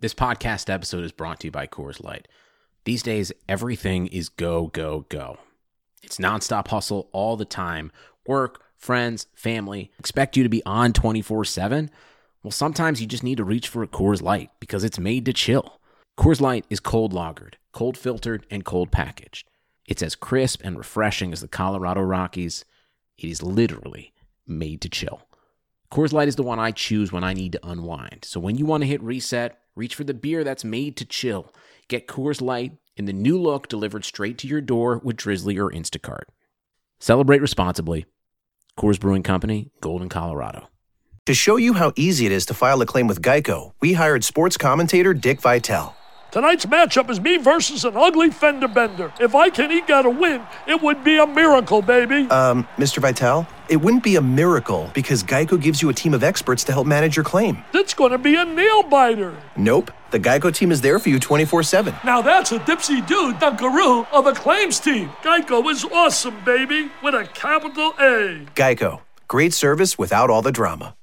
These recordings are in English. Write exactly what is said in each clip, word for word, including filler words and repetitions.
This podcast episode is brought to you by Coors Light. These days, everything is go, go, go. It's nonstop hustle all the time. Work, friends, family, expect you to be on twenty-four seven. Well, sometimes you just need to reach for a Coors Light because it's made to chill. Coors Light is cold lagered, cold filtered, and cold packaged. It's as crisp and refreshing as the Colorado Rockies. It is literally made to chill. Coors Light is the one I choose when I need to unwind. So when you want to hit reset, reach for the beer that's made to chill. Get Coors Light in the new look delivered straight to your door with Drizzly or Instacart. Celebrate responsibly. Coors Brewing Company, Golden, Colorado. To show you how easy it is to file a claim with Geico, we hired sports commentator Dick Vitale. Tonight's matchup is me versus an ugly fender bender. If I can eke out a win, it would be a miracle, baby. Um, Mister Vitale, it wouldn't be a miracle because Geico gives you a team of experts to help manage your claim. It's going to be a nail-biter. Nope. The Geico team is there for you twenty-four seven. Now that's a dipsy-do dunkaroo of a claims team. Geico is awesome, baby, with a capital A. Geico. Great service without all the drama.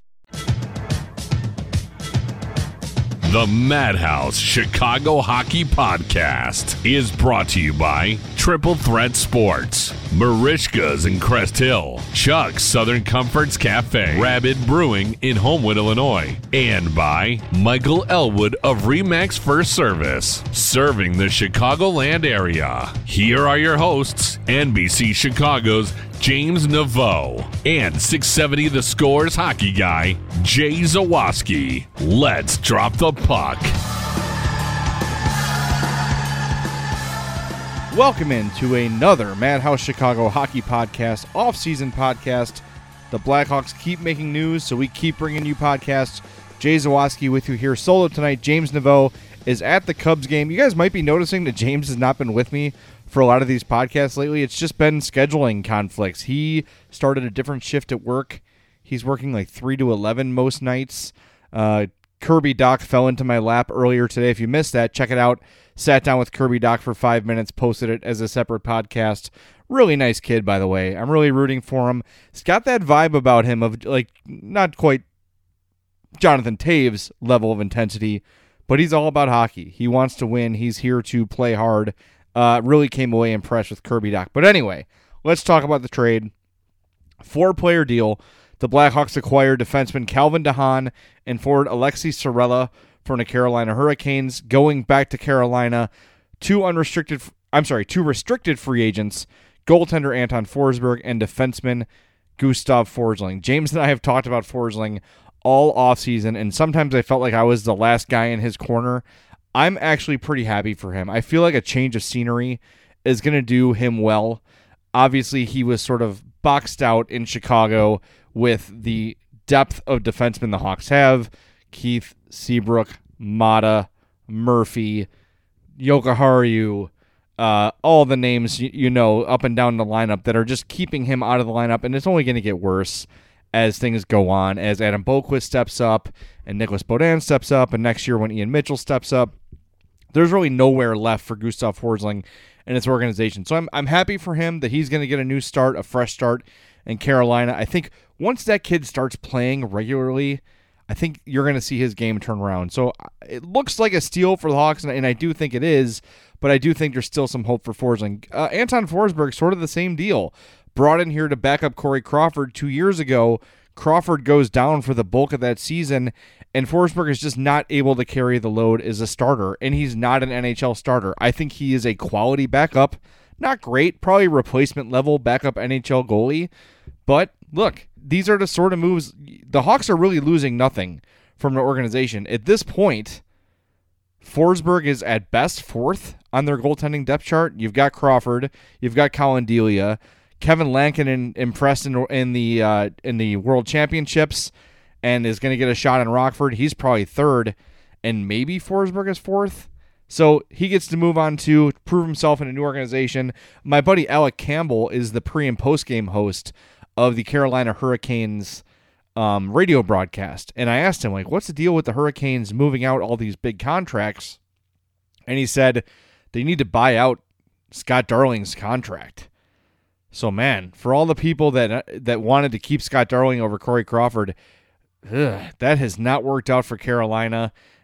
The Madhouse Chicago Hockey Podcast is brought to you by Triple Threat Sports, Marishka's in Crest Hill, Chuck's Southern Comforts Cafe, Rabbit Brewing in Homewood, Illinois, and by Michael Elwood of Remax First Service, serving the Chicagoland area. Here are your hosts, N B C Chicago's James Naveau and six seventy The Score's hockey guy, Jay Zawaski. Let's drop the puck. Welcome into another Madhouse Chicago Hockey Podcast, off-season podcast. The Blackhawks keep making news, so we keep bringing you podcasts. Jay Zawaski with you here solo tonight. James Naveau is at the Cubs game. You guys might be noticing that James has not been with me for a lot of these podcasts lately. It's just been scheduling conflicts. He started a different shift at work. He's working like three to eleven most nights. Uh, Kirby Doc fell into my lap earlier today. If you missed that, check it out. Sat down with Kirby Doc for five minutes, posted it as a separate podcast. Really nice kid, by the way. I'm really rooting for him. He's got that vibe about him of like not quite Jonathan Toews level of intensity, but he's all about hockey. He wants to win. He's here to play hard. Uh, really came away impressed with Kirby Doc. But anyway, let's talk about the trade. Four-player deal. The Blackhawks acquired defenseman Calvin DeHaan and forward Alexi Sorella from the Carolina Hurricanes. Going back to Carolina, two unrestricted, I'm sorry, two restricted free agents, goaltender Anton Forsberg and defenseman Gustav Forsling. James and I have talked about Forsling all offseason, and sometimes I felt like I was the last guy in his corner. I'm actually pretty happy for him. I feel like a change of scenery is going to do him well. Obviously, he was sort of boxed out in Chicago with the depth of defensemen the Hawks have. Keith, Seabrook, Mata, Murphy, Jokiharju, uh, all the names you, you know up and down the lineup that are just keeping him out of the lineup, and it's only going to get worse as things go on, as Adam Boqvist steps up and Nicholas Baudin steps up, and next year when Ian Mitchell steps up, there's really nowhere left for Gustav Forsling and its organization. So I'm I'm happy for him that he's going to get a new start, a fresh start in Carolina. I think once that kid starts playing regularly, I think you're going to see his game turn around. So it looks like a steal for the Hawks, and, and I do think it is, but I do think there's still some hope for Forsling. Uh, Anton Forsberg, sort of the same deal. Brought in here to back up Corey Crawford two years ago. Crawford goes down for the bulk of that season, and Forsberg is just not able to carry the load as a starter, and he's not an N H L starter. I think he is a quality backup. Not great, probably replacement level backup N H L goalie, but look, these are the sort of moves. The Hawks are really losing nothing from the organization. At this point, Forsberg is at best fourth on their goaltending depth chart. You've got Crawford, you've got Colin Delia, Kevin Lankinen impressed in, in the uh, in the World Championships and is going to get a shot in Rockford. He's probably third, and maybe Forsberg is fourth. So he gets to move on to prove himself in a new organization. My buddy Alec Campbell is the pre- and post-game host of the Carolina Hurricanes um, radio broadcast. And I asked him, like, what's the deal with the Hurricanes moving out all these big contracts? And he said they need to buy out Scott Darling's contract. So, man, for all the people that that wanted to keep Scott Darling over Corey Crawford, ugh, that has not worked out for Carolina.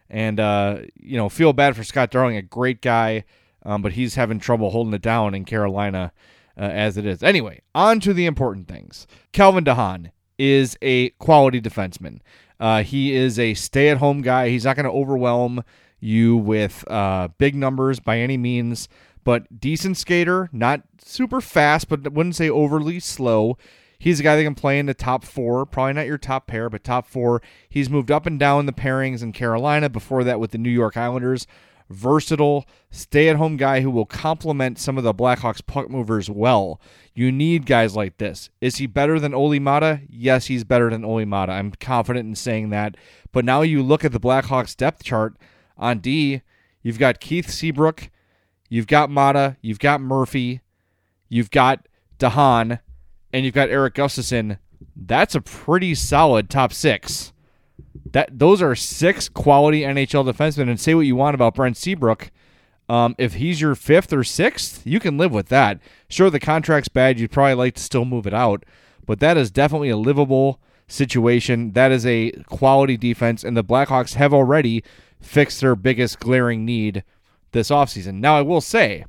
And, uh, you know, feel bad for Scott Darling, a great guy, um, but he's having trouble holding it down in Carolina uh, as it is. Anyway, on to the important things. Calvin DeHaan is a quality defenseman. Uh, he is a stay-at-home guy. He's not going to overwhelm you with uh, big numbers by any means, but decent skater, not super fast, but wouldn't say overly slow. He's a guy that can play in the top four, probably not your top pair, but top four. He's moved up and down the pairings in Carolina, before that with the New York Islanders. Versatile, stay-at-home guy who will complement some of the Blackhawks puck movers well. You need guys like this. Is he better than Olli Maatta? Yes, he's better than Olli Maatta. I'm confident in saying that. But now you look at the Blackhawks depth chart on D, you've got Keith Seabrook, you've got Maatta, you've got Murphy, you've got DeHaan, and you've got Erik Gustafsson. That's a pretty solid top six. That those are six quality N H L defensemen, and say what you want about Brent Seabrook. Um, if he's your fifth or sixth, you can live with that. Sure, the contract's bad. You'd probably like to still move it out, but that is definitely a livable situation. That is a quality defense, and the Blackhawks have already fixed their biggest glaring need this offseason. Now, I will say,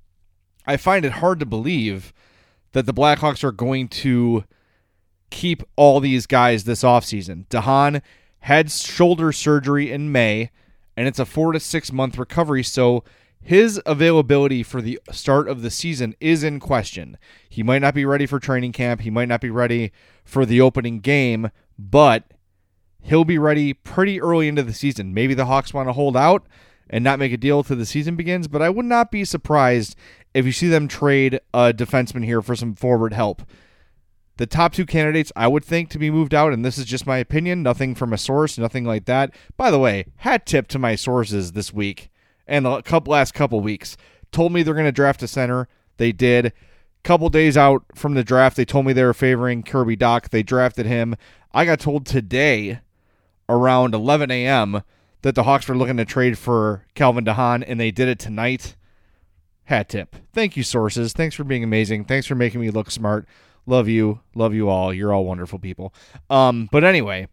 I find it hard to believe that the Blackhawks are going to keep all these guys this offseason. DeHaan had shoulder surgery in May, and it's a four to six month recovery, so his availability for the start of the season is in question. He might not be ready for training camp. He might not be ready for the opening game, but he'll be ready pretty early into the season. Maybe the Hawks want to hold out and not make a deal till the season begins, but I would not be surprised if you see them trade a defenseman here for some forward help. The top two candidates I would think to be moved out, and this is just my opinion, nothing from a source, nothing like that. By the way, hat tip to my sources this week and the couple, last couple weeks. Told me they're going to draft a center. They did. Couple days out from the draft, they told me they were favoring Kirby Dach. They drafted him. I got told today around eleven a.m. that the Hawks were looking to trade for Calvin DeHaan, and they did it tonight. Hat tip. Thank you, sources. Thanks for being amazing. Thanks for making me look smart. Love you. Love you all. You're all wonderful people. Um, but anyway,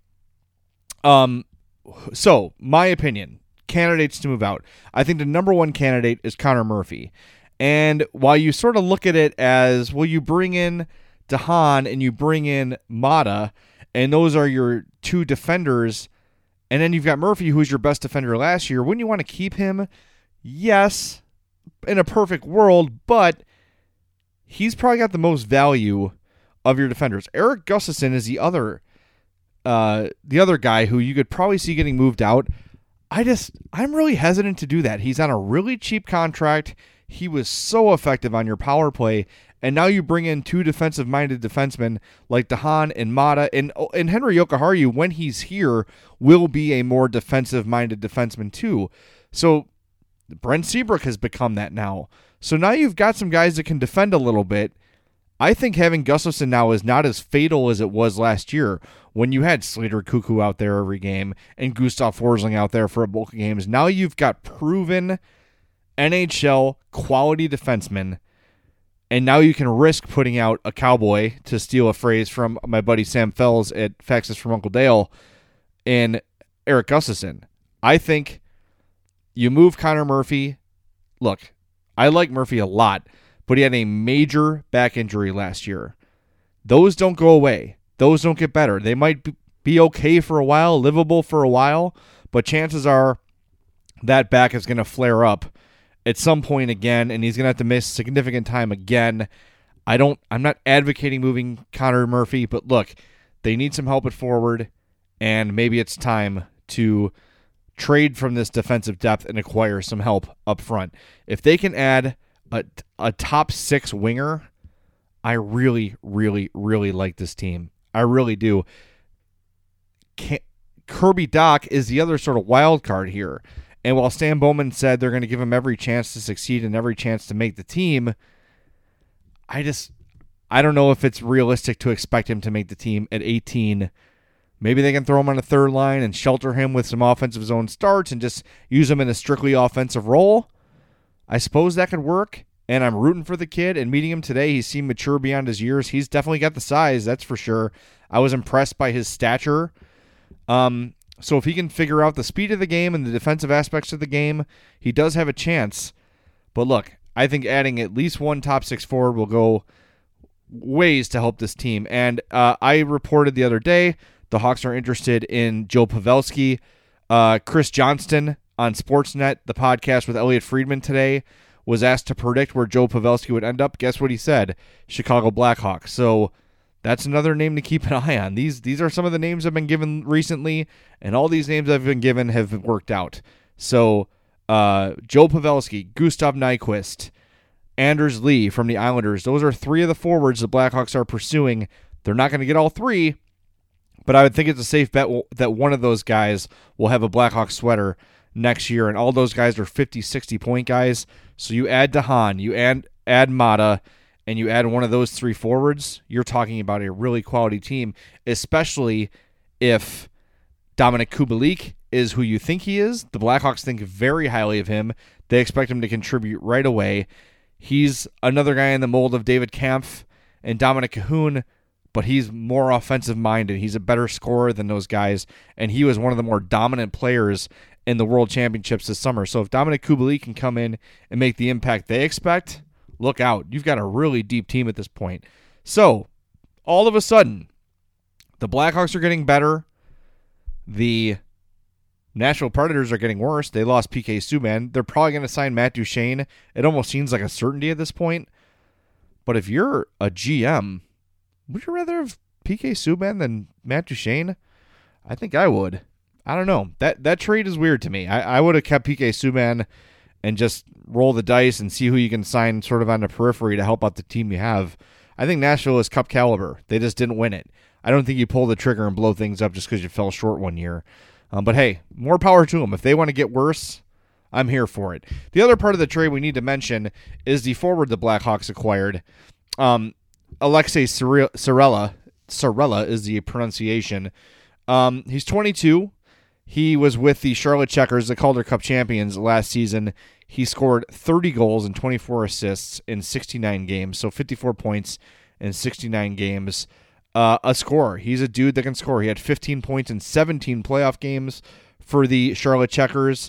um, so my opinion, candidates to move out. I think the number one candidate is Connor Murphy. And while you sort of look at it as, well, you bring in DeHaan and you bring in Maatta, and those are your two defenders, and then you've got Murphy, who's your best defender last year. Wouldn't you want to keep him? Yes, in a perfect world, but he's probably got the most value of your defenders. Erik Gustafsson is the other uh, the other guy who you could probably see getting moved out. I just, I'm really hesitant to do that. He's on a really cheap contract. He was so effective on your power play, and now you bring in two defensive-minded defensemen like DeHaan and Maatta, and, and Henri Jokiharju, when he's here, will be a more defensive-minded defenseman too. So Brent Seabrook has become that now. So now you've got some guys that can defend a little bit. I think having Gustafsson now is not as fatal as it was last year when you had Slater Cuckoo out there every game and Gustav Forsling out there for a bulk of games. Now you've got proven N H L quality defensemen, and now you can risk putting out a cowboy, to steal a phrase from my buddy Sam Fells at Faxes from Uncle Dale, in Erik Gustafsson. I think you move Connor Murphy. Look, I like Murphy a lot, but he had a major back injury last year. Those don't go away. Those don't get better. They might be okay for a while, livable for a while, but chances are that back is going to flare up at some point again, and he's going to have to miss significant time again. I don't, I'm not advocating moving Connor Murphy, but look, they need some help at forward, and maybe it's time to trade from this defensive depth and acquire some help up front. If they can add a, a top six winger, I really, really, really like this team. I really do. Can't, Kirby Dach is the other sort of wild card here. And while Stan Bowman said they're going to give him every chance to succeed and every chance to make the team, I just, I don't know if it's realistic to expect him to make the team at eighteen. Maybe they can throw him on a third line and shelter him with some offensive zone starts and just use him in a strictly offensive role. I suppose that could work, and I'm rooting for the kid, and meeting him today, he seemed mature beyond his years. He's definitely got the size, that's for sure. I was impressed by his stature. Um, So if he can figure out the speed of the game and the defensive aspects of the game, he does have a chance. But look, I think adding at least one top six forward will go ways to help this team. And uh, I reported the other day the Hawks are interested in Joe Pavelski. Uh, Chris Johnston on Sportsnet, the podcast with Elliot Friedman today, was asked to predict where Joe Pavelski would end up. Guess what he said? Chicago Blackhawks. So that's another name to keep an eye on. These these are some of the names I've been given recently, and all these names I've been given have worked out. So uh, Joe Pavelski, Gustav Nyquist, Anders Lee from the Islanders. Those are three of the forwards the Blackhawks are pursuing. They're not going to get all three, but I would think it's a safe bet that one of those guys will have a Blackhawks sweater next year, and all those guys are fifty, sixty point guys. So you add DeHaan, you add, add Mata, and you add one of those three forwards, you're talking about a really quality team, especially if Dominic Kubalik is who you think he is. The Blackhawks think very highly of him. They expect him to contribute right away. He's another guy in the mold of David Kampf and Dominic Cahoon, but he's more offensive-minded. He's a better scorer than those guys, and he was one of the more dominant players in the World Championships this summer. So if Dominic Kubalik can come in and make the impact they expect, look out. You've got a really deep team at this point. So all of a sudden, the Blackhawks are getting better. The Nashville Predators are getting worse. They lost P K Subban. They're probably going to sign Matt Duchene. It almost seems like a certainty at this point. But if you're a G M, would you rather have P K Subban than Matt Duchene? I think I would. I don't know. That that trade is weird to me. I, I would have kept P K Subban and just roll the dice and see who you can sign sort of on the periphery to help out the team you have. I think Nashville is cup caliber. They just didn't win it. I don't think you pull the trigger and blow things up just because you fell short one year. Um, but hey, more power to them. If they want to get worse, I'm here for it. The other part of the trade we need to mention is the forward the Blackhawks acquired. Um, Alexei Sorella. Sorella is the pronunciation. Um, he's twenty-two. He was with the Charlotte Checkers, the Calder Cup champions, last season. He scored thirty goals and twenty-four assists in sixty-nine games, so fifty-four points in sixty-nine games. Uh, a scorer. He's a dude that can score. He had fifteen points in seventeen playoff games for the Charlotte Checkers.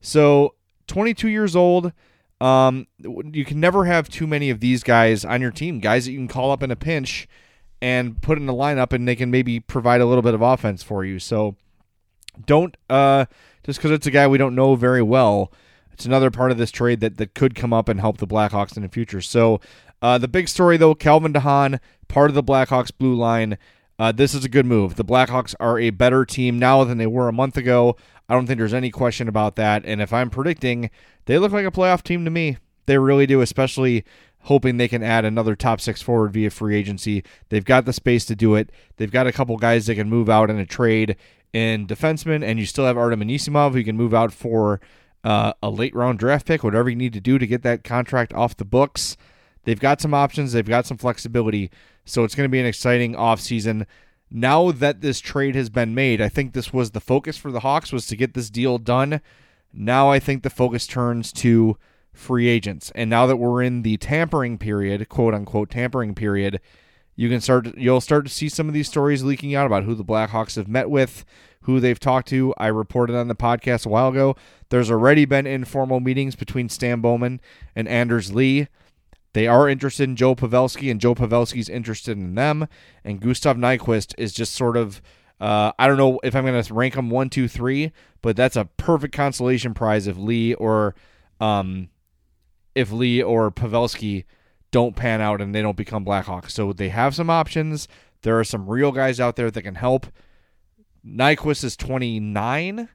So twenty-two years old. Um, you can never have too many of these guys on your team, guys that you can call up in a pinch and put in the lineup, and they can maybe provide a little bit of offense for you. So don't, uh, just because it's a guy we don't know very well, it's another part of this trade that, that could come up and help the Blackhawks in the future. So uh, the big story, though, Calvin DeHaan, part of the Blackhawks blue line. Uh, this is a good move. The Blackhawks are a better team now than they were a month ago. I don't think there's any question about that. And if I'm predicting, they look like a playoff team to me. They really do, especially hoping they can add another top six forward via free agency. They've got the space to do it. They've got a couple guys that can move out in a trade in defensemen, and you still have Artem Anisimov who can move out for uh, a late-round draft pick, whatever you need to do to get that contract off the books. They've got some options. They've got some flexibility. So it's going to be an exciting offseason. Now that this trade has been made, I think this was the focus for the Hawks, was to get this deal done. Now I think the focus turns to free agents. And now that we're in the tampering period, quote-unquote tampering period, you can start. You'll start to see some of these stories leaking out about who the Blackhawks have met with, who they've talked to. I reported on the podcast a while ago. There's already been informal meetings between Stan Bowman and Anders Lee. They are interested in Joe Pavelski, and Joe Pavelski's interested in them. And Gustav Nyquist is just sort of, uh, I don't know if I'm going to rank them one, two, three, but that's a perfect consolation prize if Lee or um, if Lee or Pavelski don't pan out and they don't become Blackhawks. So they have some options. There are some real guys out there that can help. Nyquist is twenty-nine.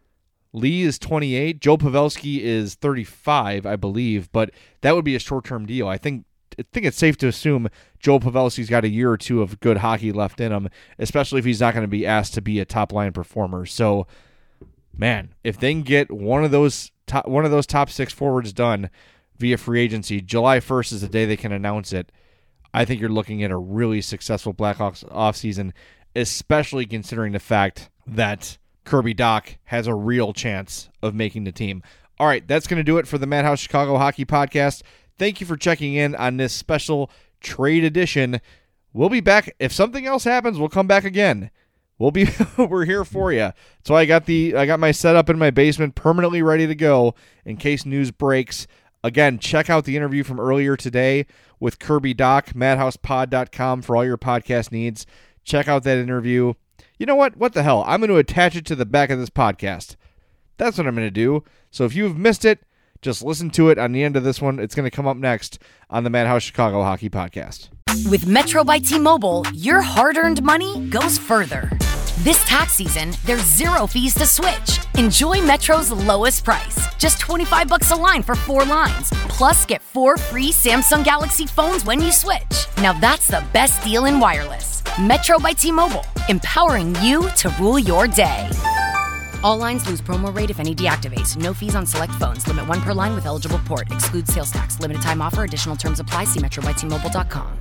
Lee is twenty-eight. Joe Pavelski is thirty-five, I believe, but that would be a short-term deal. I think I think it's safe to assume Joe Pavelski's got a year or two of good hockey left in him, especially if he's not going to be asked to be a top-line performer. So, man, if they can get one of those top, one of those top six forwards done via free agency, July first is the day they can announce it. I think you're looking at a really successful Blackhawks offseason, especially considering the fact that Kirby Dach has a real chance of making the team. All right, that's going to do it for the Madhouse Chicago Hockey Podcast. Thank you for checking in on this special trade edition. We'll be back. If something else happens, we'll come back again. we'll be we're here for you. So I got the I got my setup in my basement permanently ready to go in case news breaks. Again, check out the interview from earlier today with Kirby Doc, madhouse pod dot com for all your podcast needs. Check out that interview. You know what? What the hell? I'm going to attach it to the back of this podcast. That's what I'm going to do. So if you've missed it, just listen to it on the end of this one. It's going to come up next on the Madhouse Chicago Hockey Podcast. With Metro by T-Mobile, your hard-earned money goes further. This tax season, there's zero fees to switch. Enjoy Metro's lowest price, just twenty-five bucks a line for four lines. Plus, get four free Samsung Galaxy phones when you switch. Now that's the best deal in wireless. Metro by T-Mobile, empowering you to rule your day. All lines lose promo rate if any deactivates. No fees on select phones. Limit one per line with eligible port. Excludes sales tax. Limited time offer. Additional terms apply. See metro by T Mobile dot com.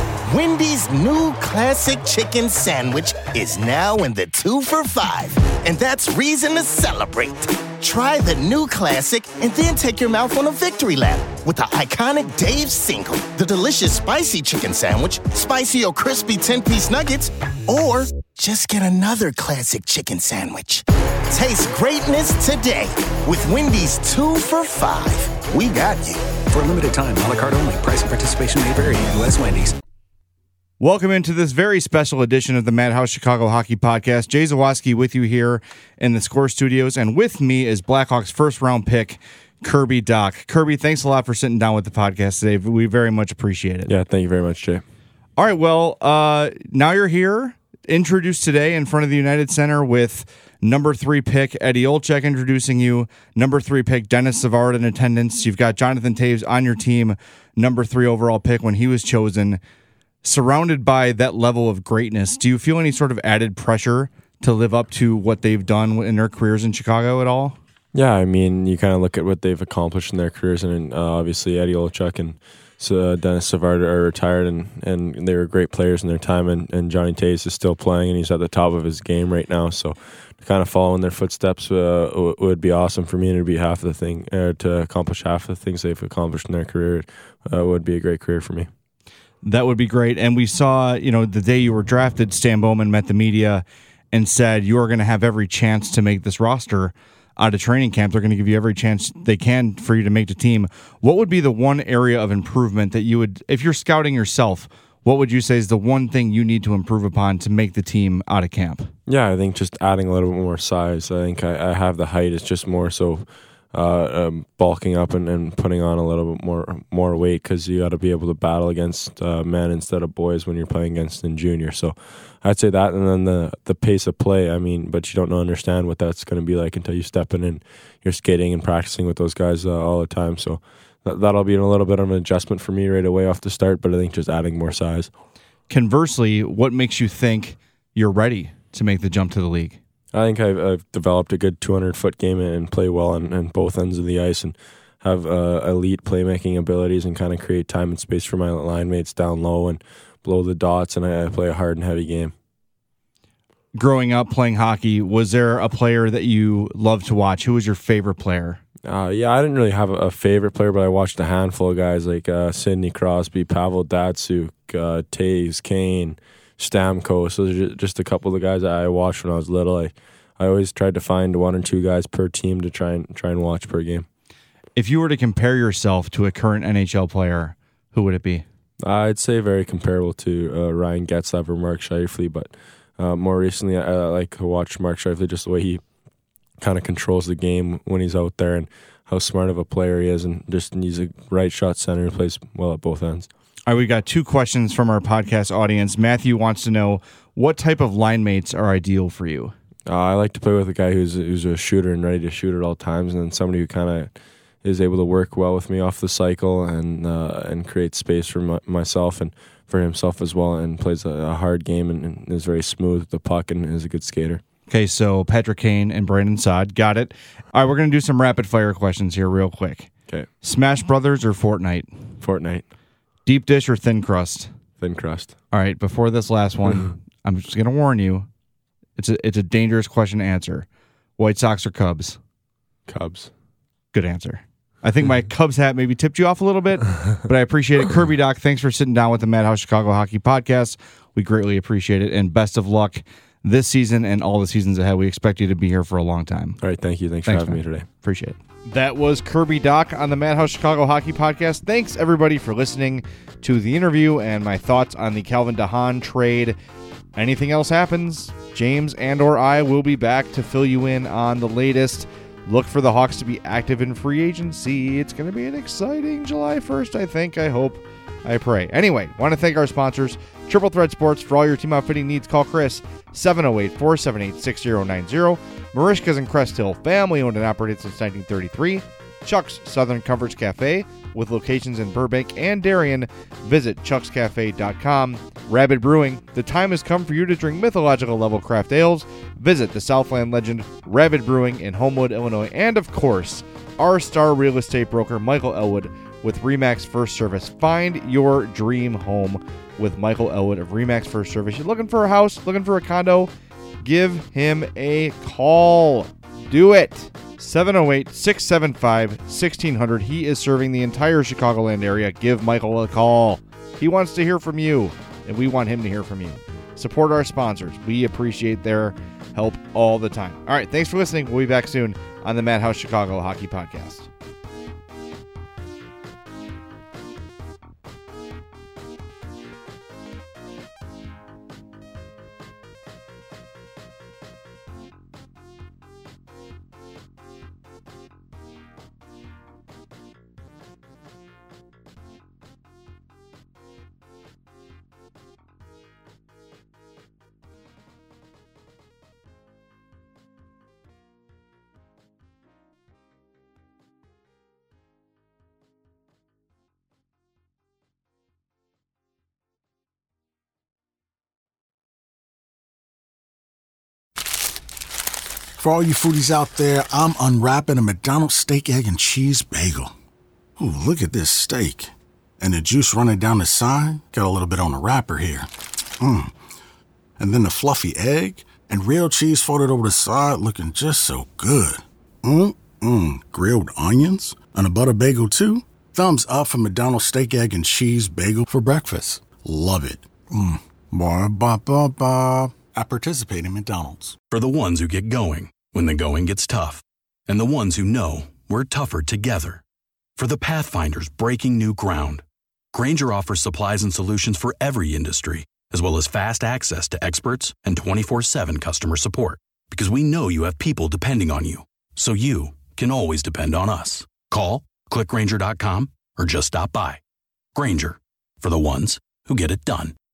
Wendy's new classic chicken sandwich is now in the two for five, and that's reason to celebrate. Try the new classic and then take your mouth on a victory lap with the iconic Dave's Single, the delicious spicy chicken sandwich, spicy or crispy ten-piece nuggets, or just get another classic chicken sandwich. Taste greatness today with Wendy's two for five. We got you. For a limited time, a la carte only. Price and participation may vary. U S Wendy's. Welcome into this very special edition of the Madhouse Chicago Hockey Podcast. Jay Zawaski with you here in the Score Studios, and with me is Blackhawks first round pick, Kirby Doc. Kirby, thanks a lot for sitting down with the podcast today. We very much appreciate it. Yeah, thank you very much, Jay. All right, well, uh, now you're here, introduced today in front of the United Center with number three pick Eddie Olczyk introducing you, number three pick Dennis Savard in attendance. You've got Jonathan Toews on your team, number three overall pick when he was chosen. Surrounded by that level of greatness, do you feel any sort of added pressure to live up to what they've done in their careers in Chicago at all? Yeah, I mean, you kind of look at what they've accomplished in their careers, and uh, obviously Eddie Olczyk and uh, Dennis Savard are retired, and, and they were great players in their time, and, and Johnny Toews is still playing, and he's at the top of his game right now, so to kind of follow in their footsteps uh, w- would be awesome for me, and it'd be half the thing, uh, to accomplish half the things they've accomplished in their career uh, would be a great career for me. That would be great. And we saw, you know, the day you were drafted, Stan Bowman met the media and said you are going to have every chance to make this roster out of training camp. They're going to give you every chance they can for you to make the team. What would be the one area of improvement that you would, if you're scouting yourself, what would you say is the one thing you need to improve upon to make the team out of camp? Yeah, I think just adding a little bit more size. I think I, I have the height. It's just more so Uh, um, bulking up and, and putting on a little bit more more weight, because you got to be able to battle against uh, men instead of boys when you're playing against in junior. So I'd say that, and then the the pace of play. I mean, but you don't know, understand what that's going to be like until you step in and you're skating and practicing with those guys uh, all the time. So that, that'll be a little bit of an adjustment for me right away off the start, but I think just adding more size. Conversely, what makes you think you're ready to make the jump to the league? I think I've, I've developed a good two hundred foot game and play well on, on both ends of the ice, and have uh, elite playmaking abilities, and kind of create time and space for my line mates down low and blow the dots, and I, I play a hard and heavy game. Growing up playing hockey, was there a player that you loved to watch? Who was your favorite player? Uh, yeah, I didn't really have a, a favorite player, but I watched a handful of guys like uh, Sidney Crosby, Pavel Datsyuk, uh, Toews, Kane, Stamkos. Those are just a couple of the guys that I watched when I was little. I, I always tried to find one or two guys per team to try and try and watch per game. If you were to compare yourself to a current N H L player, who would it be? I'd say very comparable to uh, Ryan Getzlaf or Mark Scheifele, but uh, more recently I, I like to watch Mark Scheifele, just the way he kind of controls the game when he's out there, and how smart of a player he is, and just he's a right shot center who plays well at both ends. All right, we got two questions from our podcast audience. Matthew wants to know, what type of line mates are ideal for you? Uh, I like to play with a guy who's who's a shooter and ready to shoot at all times, and then somebody who kind of is able to work well with me off the cycle, and uh, and create space for my, myself and for himself as well, and plays a, a hard game, and, and is very smooth with the puck, and is a good skater. Okay, so Patrick Kane and Brandon Saad. Got it. All right, we're going to do some rapid-fire questions here real quick. Okay. Smash Brothers or Fortnite? Fortnite. Deep dish or thin crust? Thin crust. All right, before this last one, I'm just going to warn you, it's a, it's a dangerous question to answer. White Sox or Cubs? Cubs. Good answer. I think my Cubs hat maybe tipped you off a little bit, but I appreciate it. Kirby Doc, thanks for sitting down with the Madhouse Chicago Hockey Podcast. We greatly appreciate it, and best of luck this season and all the seasons ahead. We expect you to be here for a long time. All right, thank you. Thanks, Thanks for having man. me today. Appreciate it. That was Kirby Dach on the Madhouse Chicago Hockey Podcast. Thanks, everybody, for listening to the interview and my thoughts on the Calvin DeHaan trade. Anything else happens, James and or I will be back to fill you in on the latest. Look for the Hawks to be active in free agency. It's going to be an exciting July first, I think. I hope. I pray. Anyway, want to thank our sponsors, Triple Threat Sports. For all your team outfitting needs, call Chris, seven oh eight, four seven eight, six oh nine oh. Marishka's in Crest Hill, family owned and operated since nineteen thirty-three. Chuck's Southern Comforts Cafe, with locations in Burbank and Darien. Visit chucks cafe dot com. Rabid Brewing, the time has come for you to drink mythological level craft ales. Visit the Southland legend Rabid Brewing in Homewood, Illinois. And of course, our star real estate broker, Michael Elwood, with RE/MAX First Service. Find your dream home with Michael Elwood of RE/MAX First Service. You're looking for a house, looking for a condo? Give him a call. Do it. seven oh eight, six seven five, one six zero zero. He is serving the entire Chicagoland area. Give Michael a call. He wants to hear from you, and we want him to hear from you. Support our sponsors. We appreciate their help all the time. All right, thanks for listening. We'll be back soon on the Madhouse Chicago Hockey Podcast. For all you foodies out there, I'm unwrapping a McDonald's steak, egg, and cheese bagel. Ooh, look at this steak. And the juice running down the side. Got a little bit on the wrapper here. Mmm. And then the fluffy egg and real cheese folded over the side, looking just so good. Mmm-mmm. Grilled onions and a butter bagel too. Thumbs up for McDonald's steak, egg, and cheese bagel for breakfast. Love it. Mmm. Ba-ba-ba-ba. I participate in McDonald's. For the ones who get going when the going gets tough, and the ones who know we're tougher together. For the Pathfinders breaking new ground, Grainger offers supplies and solutions for every industry, as well as fast access to experts and twenty-four seven customer support. Because we know you have people depending on you, so you can always depend on us. Call, click Grainger dot com, or just stop by. Grainger, for the ones who get it done.